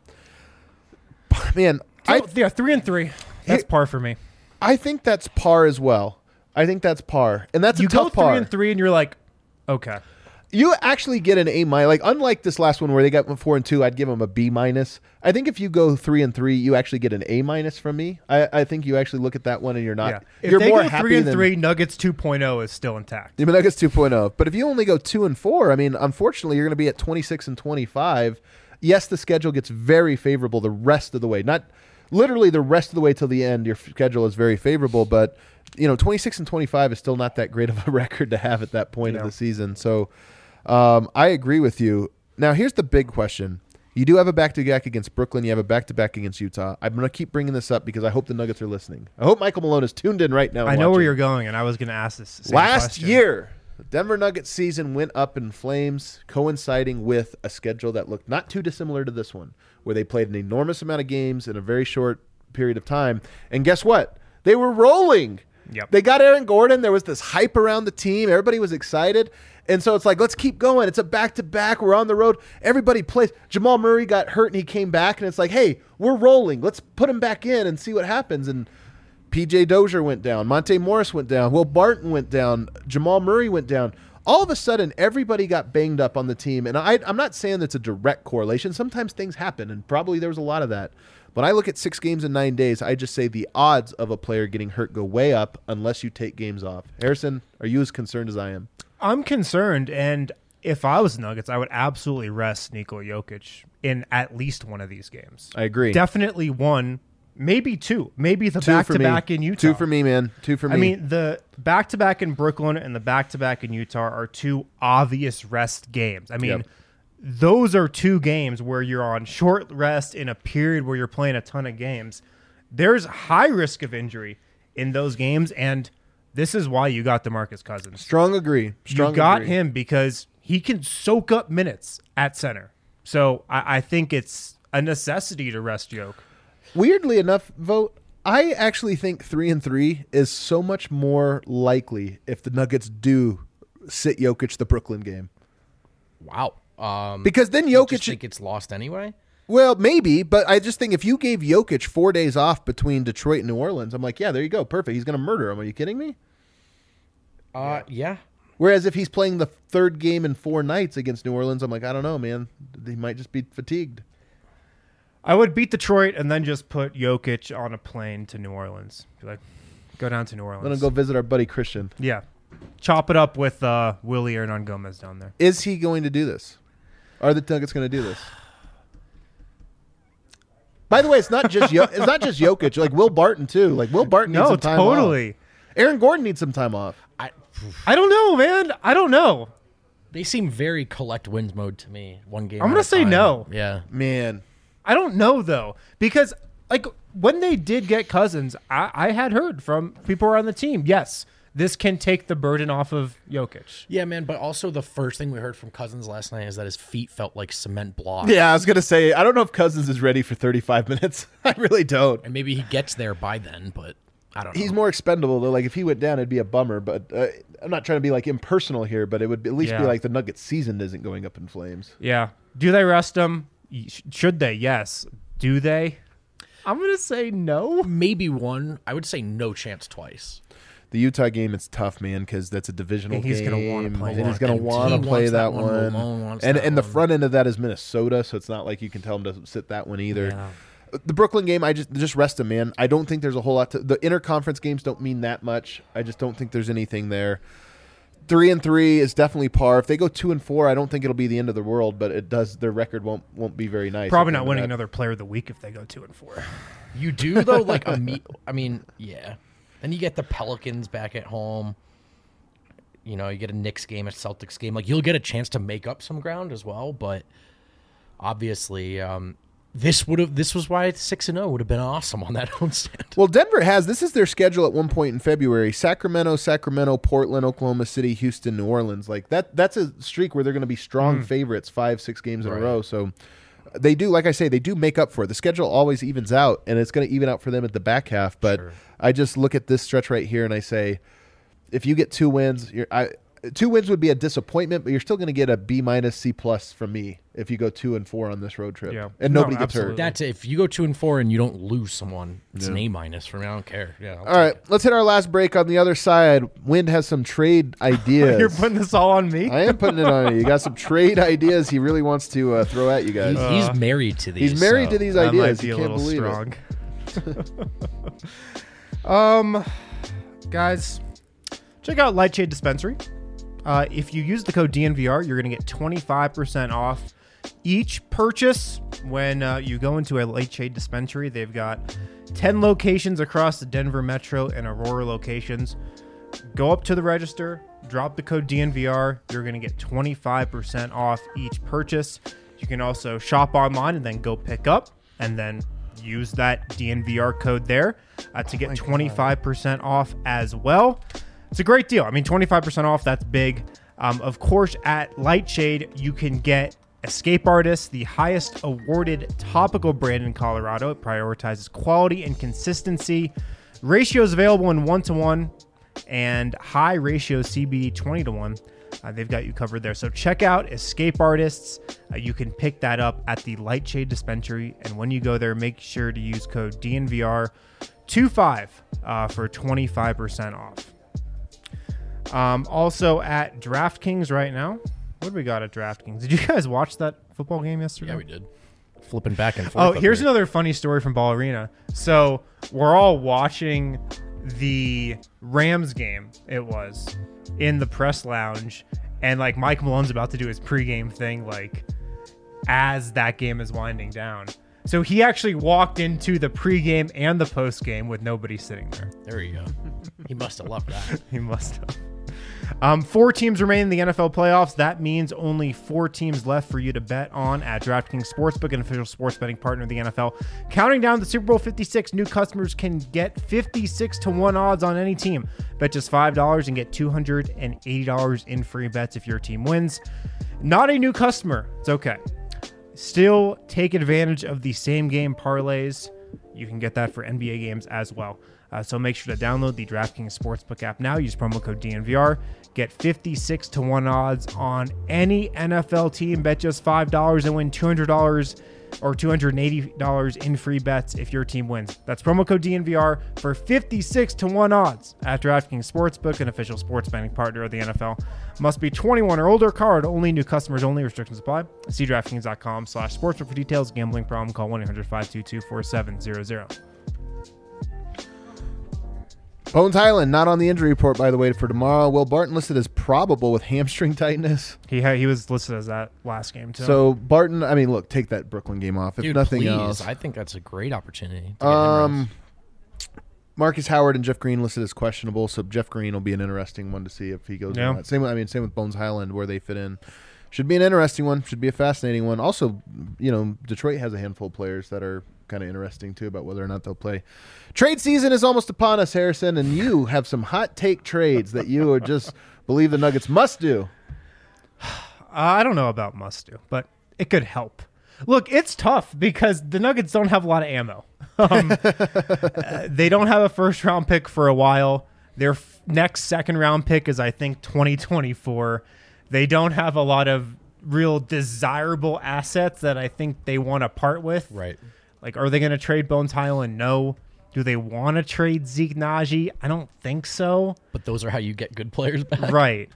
man, I, I yeah, three and three. That's Here- par for me. I think that's par as well. I think that's par, and that's You a go tough three par. and three, and you're like, okay. You actually get an A minus. Like unlike this last one where they got four and two, I'd give them a B minus. I think if you go three and three, you actually get an A minus from me. I, I think you actually look at that one and you're not. Yeah. If You're they more go happy three and than, three, Nuggets two point oh is still intact. The Nuggets two point oh. But if you only go two and four, I mean, unfortunately, you're going to be at twenty-six and twenty-five. Yes, the schedule gets very favorable the rest of the way. Not literally the rest of the way till the end. Your schedule is very favorable, but you know, twenty-six and twenty-five is still not that great of a record to have at that point No. of the season. So um, I agree with you. Now, here's the big question. You do have a back-to-back against Brooklyn. You have a back-to-back against Utah. I'm going to keep bringing this up because I hope the Nuggets are listening. I hope Michael Malone is tuned in right now. and I know where watching. you're going, and I was going to ask this same Last question. year, the Denver Nuggets season went up in flames, coinciding with a schedule that looked not too dissimilar to this one, where they played an enormous amount of games in a very short period of time. And guess what? They were rolling. Yep. They got Aaron Gordon. There was this hype around the team. Everybody was excited. And so it's like, let's keep going. It's a back-to-back. We're on the road. Everybody plays. Jamal Murray got hurt and he came back. And it's like, hey, we're rolling. Let's put him back in and see what happens. And P J Dozier went down. Monte Morris went down. Will Barton went down. Jamal Murray went down. All of a sudden, everybody got banged up on the team. And I, I'm not saying that's a direct correlation. Sometimes things happen, and probably there was a lot of that. When I look at six games in nine days, I just say the odds of a player getting hurt go way up unless you take games off. Harrison, are you as concerned as I am? I'm concerned, and if I was Nuggets, I would absolutely rest Nikola Jokic in at least one of these games. I agree. Definitely one, maybe two, maybe the Two for me. back-to-back in Utah. Two for me, man. Two for me. I mean, the back-to-back in Brooklyn and the back-to-back in Utah are two obvious rest games. I mean, Yep. those are two games where you're on short rest in a period where you're playing a ton of games. There's high risk of injury in those games, and this is why you got DeMarcus Cousins. strong agree. Strong you got agree. him because he can soak up minutes at center. So I, I think it's a necessity to rest Joke. Weirdly enough, vote. I actually think three and three is so much more likely if the Nuggets do sit Jokic the Brooklyn game. Wow. Um, Because then you Jokic... just think it's lost anyway? Well, maybe, but I just think if you gave Jokic four days off between Detroit and New Orleans, I'm like, yeah, there you go. Perfect. He's going to murder him. Are you kidding me? Uh, yeah. Whereas if he's playing the third game in four nights against New Orleans, I'm like, I don't know, man. He might just be fatigued. I would beat Detroit and then just put Jokic on a plane to New Orleans. Be like, go down to New Orleans. Let him go visit our buddy Christian. Yeah. Chop it up with uh, Willie Hernan Gomez down there. Is he going to do this? Are the Nuggets going to do this? By the way, it's not just Yo- it's not just Jokic. Like Will Barton too. Like Will Barton needs No, some time totally. off. Aaron Gordon needs some time off. I, I don't know, man. I don't know. they seem very collect wins mode to me. One game. I'm at gonna a say time. no. Yeah. Man, I don't know though, because like when they did get Cousins, I, I had heard from people around the team, yes, this can take the burden off of Jokic. Yeah, man. But also the first thing we heard from Cousins last night is that his feet felt like cement blocks. yeah, I was gonna say I don't know if Cousins is ready for thirty-five minutes. I really don't. And maybe he gets there by then, but I don't know. He's more expendable though. Like if he went down, it'd be a bummer. But uh, I'm not trying to be like impersonal here, but it would at least be Yeah. like the Nuggets season isn't going up in flames. Yeah. Do they rest him? Y- Should they? Yes. Do they? I'm gonna say no. maybe one. I would say no chance twice. The Utah game, it's tough, man, because that's a divisional And he's game. gonna wanna play and that. he's going to And want he to play wants that, that one. one. Malone wants And that and the one. front end of that is Minnesota, so it's not like you can tell him to sit that one either. Yeah. The Brooklyn game, I just just rest him, man. I don't think there's a whole lot to the interconference games don't mean that much. I just don't think there's anything there. Three and three is definitely par. If they go two and four, I don't think it'll be the end of the world, but it does. Their record won't won't be very nice. Probably at the not end of winning that. another Player of the Week if they go two and four. You do though, like a me. I mean, yeah. Then you get the Pelicans back at home. You know, you get a Knicks game, a Celtics game. Like you'll get a chance to make up some ground as well. But obviously, um, this would have. This was why six and zero would have been awesome on that homestand. Well, Denver has this is their schedule at one point in February: Sacramento, Sacramento, Portland, Oklahoma City, Houston, New Orleans. Like that. That's a streak where they're going to be strong favorites, five, six games in Right. a row. So they do, like I say, they do make up for it. The schedule always evens out, and it's going to even out for them at the back half. But Sure. I just look at this stretch right here, and I say, if you get two wins, you're, I, two wins would be a disappointment, but you're still going to get a B minus, C plus from me if you go two and four on this road trip. Yeah. And No, nobody gets absolutely. hurt. That's if you go two and four and you don't lose someone, it's an Yeah. A minus for me. I don't care. Yeah. I'll All take right, it. let's hit our last break. On the other side, Wind has some trade ideas. You're putting this all on me? I am putting it on you. You got some trade ideas he really wants to uh, throw at you guys. He's, he's married to these. He's married so- to these That ideas. might be You a can't little believe strong. um, guys, check out Lightshade Dispensary. Uh, if you use the code D N V R, you're going to get twenty-five percent off each purchase when uh, you go into a Lightshade Dispensary. They've got ten locations across the Denver Metro and Aurora locations. Go up to the register, drop the code D N V R. You're going to get twenty-five percent off each purchase. You can also shop online and then go pick up and then use that D N V R code there uh, to get twenty-five percent off as well. It's a great deal. I mean, twenty-five percent off, that's big. Um, of course, at Lightshade, you can get Escape Artist, the highest awarded topical brand in Colorado. It prioritizes quality and consistency. Ratios available in one to one and high ratio C B D twenty to one. Uh, they've got you covered there. So check out Escape Artists. Uh, you can pick that up at the Lightshade Dispensary. And when you go there, make sure to use code D N V R twenty-five uh, for twenty-five percent off. Um, also at DraftKings right now. What do we got at DraftKings? Did you guys watch that football game yesterday? Yeah, we did. Flipping back and forth. Oh, up here's there. another funny story from Ball Arena. So we're all watching the Rams game, it was, in the press lounge. And like Mike Malone's about to do his pregame thing, like as that game is winding down. So he actually walked into the pregame and the postgame with nobody sitting there. There you go. He must have loved that. He must have. Um, four teams remain in the N F L playoffs. That means only four teams left for you to bet on at DraftKings Sportsbook, an official sports betting partner of the N F L. Counting down to Super Bowl fifty-six, new customers can get fifty-six to one odds on any team. Bet just five dollars and get two hundred eighty dollars in free bets if your team wins. Not a new customer. It's okay. Still take advantage of the same game parlays. You can get that for N B A games as well. Uh, so make sure to download the DraftKings Sportsbook app now. Use promo code D N V R. Get fifty-six to one odds on any N F L team. Bet just five dollars and win two hundred dollars or two hundred eighty dollars in free bets if your team wins. That's promo code D N V R for fifty-six to one odds at DraftKings Sportsbook, an official sports betting partner of the N F L. Must be twenty-one or older. Card only. New customers only. Restrictions apply. See DraftKings.com slash sportsbook for details. Gambling problem? Call one eight hundred five two two four seven zero zero. Bones Highland, not on the injury report, by the way, for tomorrow. Will Barton listed as probable with hamstring tightness. He ha- he was listed as that last game, too. So, Barton, I mean, look, take that Brooklyn game off. If Dude, nothing please. else. I think that's a great opportunity. To get Um, him Marcus Howard and Jeff Green listed as questionable, so Jeff Green will be an interesting one to see if he goes Yeah. or not. Same with, I mean, same with Bones Highland, where they fit in. Should be an interesting one. Should be a fascinating one. Also, you know, Detroit has a handful of players that are kind of interesting, too, about whether or not they'll play. Trade season is almost upon us, Harrison, and you have some hot take trades that you would just believe the Nuggets must do. Uh, I don't know about must do, but it could help. Look, it's tough because the Nuggets don't have a lot of ammo. Um, uh, they don't have a first round pick for a while. Their f- next second round pick is, I think, twenty twenty-four. They don't have a lot of real desirable assets that I think they want to part with. Right. Like, are they going to trade Bones Highland? No. Do they want to trade Zeke Naji? I don't think so. But those are how you get good players back. Right.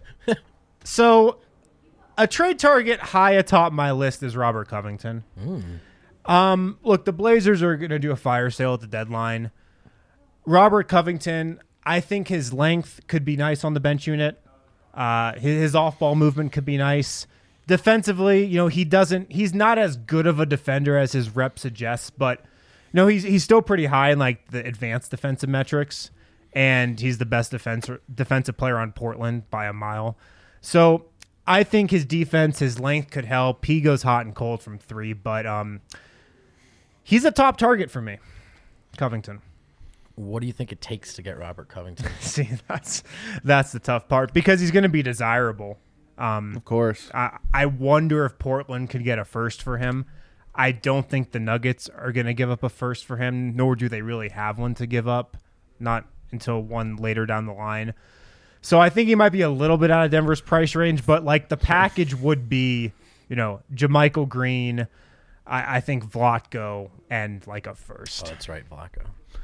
So a trade target high atop my list is Robert Covington. Mm. Um, look, the Blazers are going to do a fire sale at the deadline. Robert Covington, I think his length could be nice on the bench unit. Uh, his, his off-ball movement could be nice. Defensively, you know, he doesn't, he's not as good of a defender as his rep suggests, but, you know, he's he's still pretty high in, like, the advanced defensive metrics, and he's the best defense, defensive player on Portland by a mile. So I think his defense, his length could help. He goes hot and cold from three, but um, he's a top target for me, Covington. What do you think it takes to get Robert Covington? See, that's that's the tough part because he's going to be desirable. Um, Of course. I, I wonder if Portland could get a first for him. I don't think the Nuggets are going to give up a first for him, nor do they really have one to give up, not until one later down the line. So I think he might be a little bit out of Denver's price range, but like the package would be, you know, JaMychal Green, I, I think Vlatko, and like a first. Oh, that's right, Vlatko.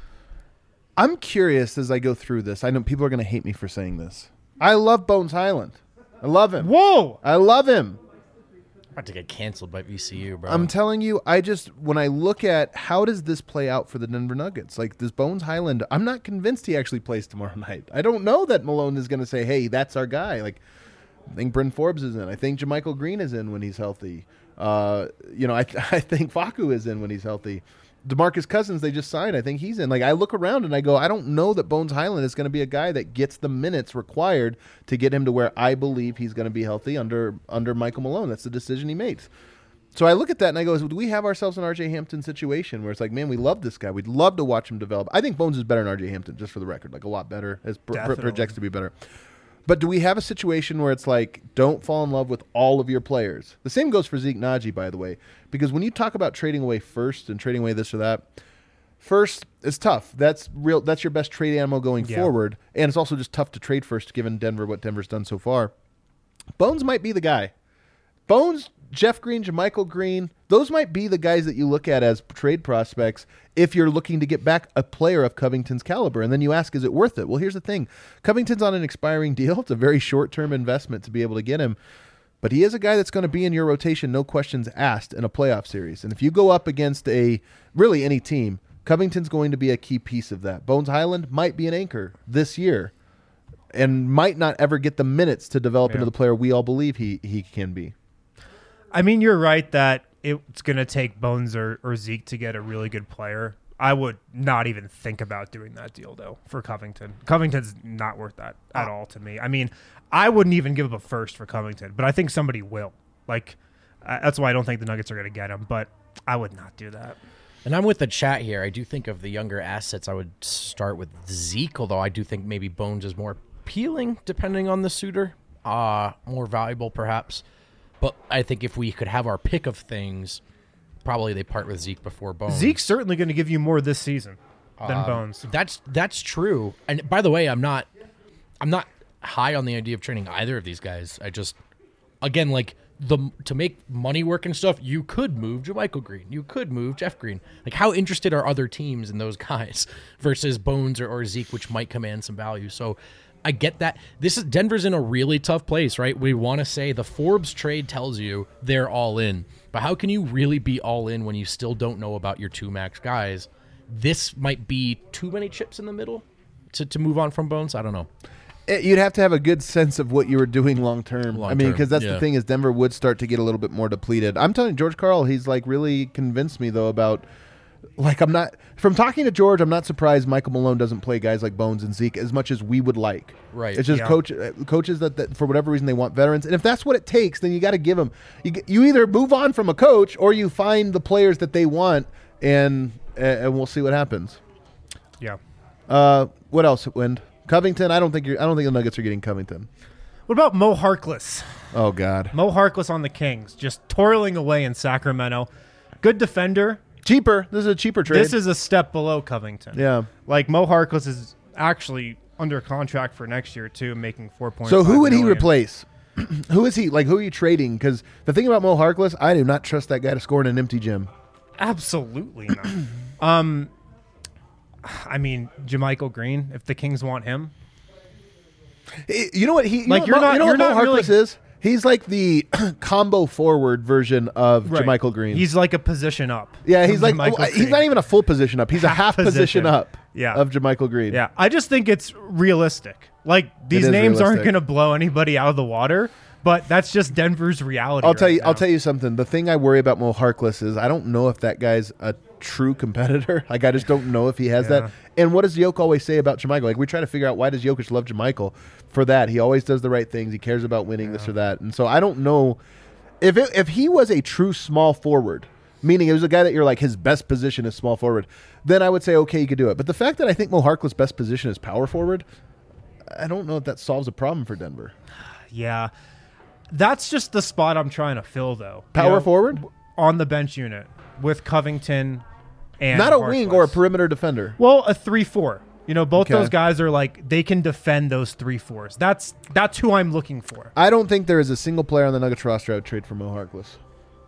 I'm curious as I go through this. I know people are going to hate me for saying this. I love Bones Highland. I love him. Whoa! I love him. About to get canceled by V C U, bro. I'm telling you, I just, when I look at how does this play out for the Denver Nuggets, like this Bones Highland, I'm not convinced he actually plays tomorrow night. I don't know that Malone is going to say, hey, that's our guy. Like, I think Bryn Forbes is in. I think JaMychal Green is in when he's healthy. Uh, you know, I, I think Facu is in when he's healthy. DeMarcus Cousins, they just signed. I think he's in. Like, I look around and I go, I don't know that Bones Highland is going to be a guy that gets the minutes required to get him to where I believe he's going to be healthy under under Michael Malone. That's the decision he makes. So I look at that and I go, do we have ourselves an R J Hampton situation where it's like, man, we love this guy. We'd love to watch him develop. I think Bones is better than R J Hampton, just for the record, like a lot better, as pr- pr- projects to be better. But do we have a situation where it's like, don't fall in love with all of your players? The same goes for Zeke Naji, by the way, because when you talk about trading away first and trading away this or that, first is tough. That's real. That's your best trade ammo going Yeah. forward, and it's also just tough to trade first, given Denver what Denver's done so far. Bones might be the guy. Bones, Jeff Green, JaMychal Green, those might be the guys that you look at as trade prospects if you're looking to get back a player of Covington's caliber. And then you ask, is it worth it? Well, here's the thing. Covington's on an expiring deal. It's a very short-term investment to be able to get him. But he is a guy that's going to be in your rotation, no questions asked, in a playoff series. And if you go up against a really any team, Covington's going to be a key piece of that. Bones Highland might be an anchor this year and might not ever get the minutes to develop Yeah. into the player we all believe he, he can be. I mean, you're right that it's going to take Bones or, or Zeke to get a really good player. I would not even think about doing that deal, though, for Covington. Covington's not worth that at all to me. I mean, I wouldn't even give up a first for Covington, but I think somebody will. Like, uh, that's why I don't think the Nuggets are going to get him, but I would not do that. And I'm with the chat here. I do think of the younger assets, I would start with Zeke, although I do think maybe Bones is more appealing, depending on the suitor. Uh, more valuable, perhaps. But I think if we could have our pick of things, probably they part with Zeke before Bones. Zeke's certainly going to give you more this season. than Um, Bones. That's that's true. And by the way, I'm not I'm not high on the idea of trading either of these guys. I just again like the to make money work and stuff, you could move JaMychal Green. You could move Jeff Green. Like how interested are other teams in those guys versus Bones or, or Zeke, which might command some value. So I get that. This is Denver's in a really tough place, right? We want to say the Forbes trade tells you they're all in. But how can you really be all in when you still don't know about your two max guys? This might be too many chips in the middle to, to move on from Bones. I don't know. It, you'd have to have a good sense of what you were doing long term. I mean, because that's yeah. the thing is Denver would start to get a little bit more depleted. I'm telling you, George Karl, he's like really convinced me though about like I'm not from talking to George. I'm not surprised Michael Malone doesn't play guys like Bones and Zeke as much as we would like. Right. It's just Yeah. coach uh, coaches that, that for whatever reason they want veterans, and if that's what it takes, then you got to give them. You g- you either move on from a coach or you find the players that they want, and and we'll see what happens. Yeah. Uh, what else, Wind? Covington, I don't think you're. I don't think the Nuggets are getting Covington. What about Mo Harkless? Oh God, Mo Harkless on the Kings, just toiling away in Sacramento. Good defender. cheaper. This is a cheaper trade. This is a step below Covington. yeah. Like Mo Harkless is actually under contract for next year too, making four point. So who would he replace? Who is he? Like who are you trading? Because the thing about Mo Harkless, I do not trust that guy to score in an empty gym. Absolutely not. um, I mean, JaMychal Green. If the Kings want him, Eh, You know what he? You Like, know, you're what Mo- not- You know you're what Mo not really- Harkless is? He's like the combo forward version of Right. JaMychal Green. He's like a position up. yeah, he's from like JaMychal he's Green. not even a full position up. He's a Half half position, position. up. Yeah. of JaMychal Green. Yeah, I just think it's realistic. Like these is names aren't realistic. going to blow anybody out of the water, but that's just Denver's reality. I'll tell right you. now. I'll tell you something. The thing I worry about Mo Harkless is I don't know if that guy's a true competitor. Like I just don't know if he has Yeah. that. And what does Jokic always say about JaMychal? Like we try to figure out why does Jokic love JaMychal? For that, he always does the right things. He cares about winning this or that. And so I don't know if it, if he was a true small forward, meaning it was a guy that you're like his best position is small forward, then I would say okay, you could do it. But the fact that I think Mo Harkless' best position is power forward, I don't know if that solves a problem for Denver. Yeah, that's just the spot I'm trying to fill, though. You Power know, forward, on the bench unit with Covington and not a wing or a Harkless. perimeter defender. Well, a three four. You know, both Okay. those guys are like they can defend those three fours. That's that's who I'm looking for. I don't think there is a single player on the Nuggets roster I would trade for Mo Harkless.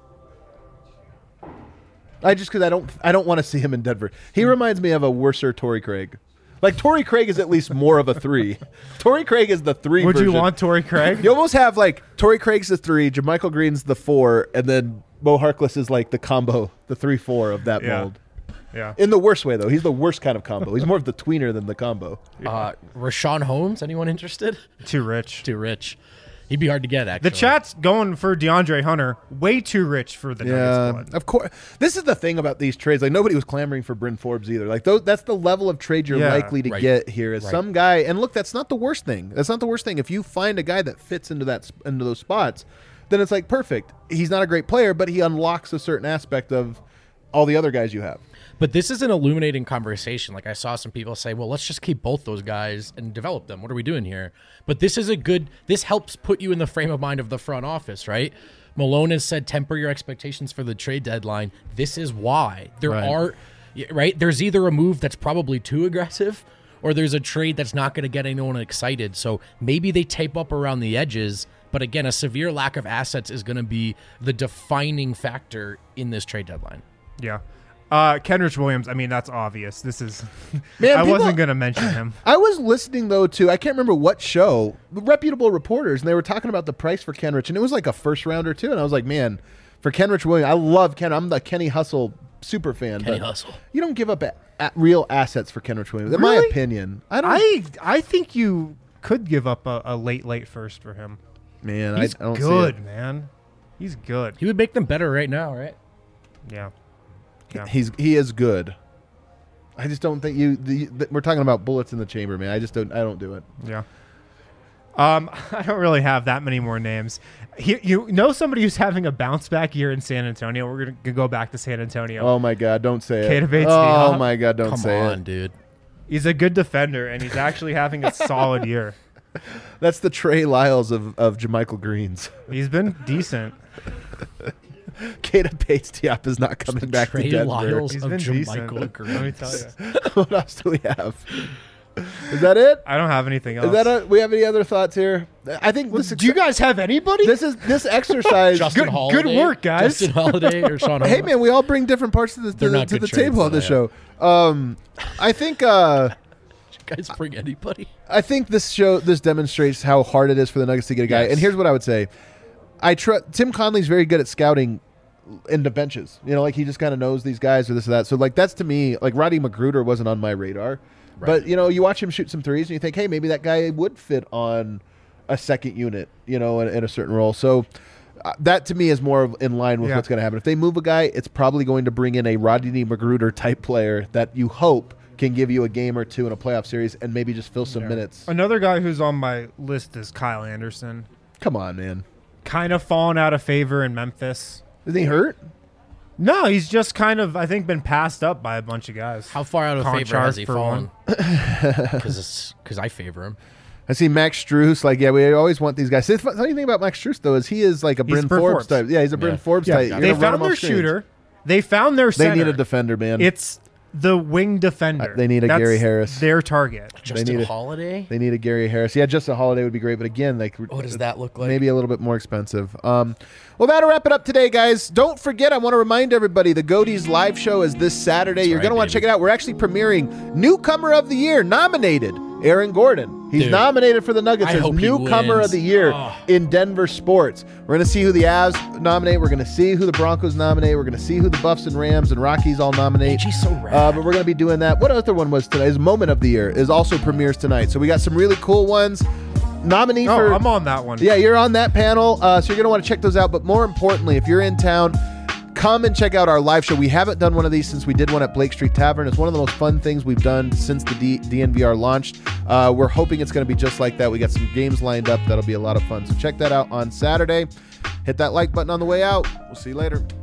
I just because I don't I don't want to see him in Denver. He reminds me of a worser Torrey Craig. Like Torrey Craig is at least more of a three. Torrey Craig is the three. Would you version. want Torrey Craig? You almost have like Torrey Craig's the three, JaMychal Green's the four, and then Mo Harkless is like the combo, the three four of that Yeah. mold. Yeah. In the worst way though, he's the worst kind of combo. He's more of the tweener than the combo. Uh, Rashawn Holmes, anyone interested? Too rich. Too rich. He'd be hard to get, actually. The chat's going for DeAndre Hunter. Way too rich for the Nuggets Yeah, squad. of course. This is the thing about these trades. Like nobody was clamoring for Bryn Forbes either. Like those, that's the level of trade you're Yeah. likely to Right. get here. Is Right. some guy, and look, that's not the worst thing. That's not the worst thing. If you find a guy that fits into that sp- into those spots, then it's like perfect. He's not a great player, but he unlocks a certain aspect of all the other guys you have. But this is an illuminating conversation. Like I saw some people say, well, let's just keep both those guys and develop them. What are we doing here? But this is a good, this helps put you in the frame of mind of the front office, right? Malone has said temper your expectations for the trade deadline. This is why. There Right. are, right? There's either a move that's probably too aggressive or there's a trade that's not going to get anyone excited. So maybe they tape up around the edges. But again, a severe lack of assets is going to be the defining factor in this trade deadline. Yeah. Uh, Kenrich Williams, I mean, that's obvious. This is. Man, I people- wasn't going to mention him. I was listening though to I can't remember what show, reputable reporters, and they were talking about the price for Kenrich, and it was like a first rounder too. And I was like, man, for Kenrich Williams, I love Ken. I'm the Kenny Hustle super fan. Kenny but Hustle. You don't give up a, a real assets for Kenrich Williams, in my Really? opinion. I don't. I I think you could give up a, a late, late first for him. man, He's I, I don't see good, it. man. He's good. He would make them better right now, right? Yeah. Yeah. He's he is good. I just don't think you. The, the, we're talking about bullets in the chamber, man. I just don't. I don't do it. Yeah. Um, I don't really have that many more names. He, you know somebody who's having a bounce back year in San Antonio? We're going to go back to San Antonio. Oh my God, don't say it. Keita Bates Oh Diop. my God, don't Come say on, it. dude. He's a good defender, and he's actually having a solid year. That's the Trey Lyles of of JaMychal Greens. He's been decent. Keita Bates Diop is not coming back Trey to Denver. Lyles He's of been Jermichael decent. Green. Let me tell you. What else do we have? Is that it? I don't have anything else. Is that a, we have any other thoughts here? I think this. Do you guys have anybody? This is this exercise. Justin Good- Holiday, good work, guys. Justin Holiday or Sean. Hey man, we all bring different parts to the to They're the, not to good the table trades, on the though, show. Um, I think uh, you guys bring anybody? I think this show this demonstrates how hard it is for the Nuggets to get a guy. Yes. And here's what I would say: I trust Tim Conley's very good at scouting into benches. You know, like he just kind of knows these guys or this or that. So like that's to me like Roddy Magruder wasn't on my radar. Right. But you know, you watch him shoot some threes and you think, hey, maybe that guy would fit on a second unit, you know, in, in a certain role. So uh, that to me is more of in line with Yeah. what's going to happen. If they move a guy, it's probably going to bring in a Rodney Magruder type player that you hope can give you a game or two in a playoff series and maybe just fill some Yeah. minutes. Another guy who's on my list is Kyle Anderson. Come on, man. Kind of fallen out of favor in Memphis. Is he hurt? No, he's just kind of, I think, been passed up by a bunch of guys. How far out of favor Conchar has he for fallen? Because because I favor him. I see Max Strus. Like, yeah, we always want these guys. The funny thing about Max Strus, though, is he is like a He's Bryn Bryn Forbes, Forbes. type. Yeah, he's a Bryn Yeah. Forbes Yeah, type. You're they gonna run him found their off screens. shooter. They found their They center. need a defender, man. It's the wing defender. Uh, they need a That's Gary Harris. Their target. Justin need a- Holiday. They need a Gary Harris. Yeah, Justin Holiday would be great, but again, like What does that look like? maybe a little bit more expensive. Um, well, that'll wrap it up today, guys. Don't forget, I want to remind everybody, the Goatees live show is this Saturday. You're right, going to want to baby. check it out. We're actually premiering Newcomer of the Year, nominated Aaron Gordon. He's Dude, nominated for the Nuggets I as hope he Newcomer wins. of the Year Oh. in Denver sports. We're going to see who the Avs nominate. We're going to see who the Broncos nominate. We're going to see who the Buffs and Rams and Rockies all nominate. She's so rad. Uh, but we're going to be doing that. What other one was today? Is Moment of the Year is also premieres tonight. So we got some really cool ones. Nominee Oh, for I'm on that one. yeah, you're on that panel, uh, so you're going to want to check those out. But more importantly, if you're in town, come and check out our live show. We haven't done one of these since we did one at Blake Street Tavern. It's one of the most fun things we've done since the D- DNVR launched. Uh, we're hoping it's going to be just like that. We got some games lined up. That'll be a lot of fun. So check that out on Saturday. Hit that like button on the way out. We'll see you later.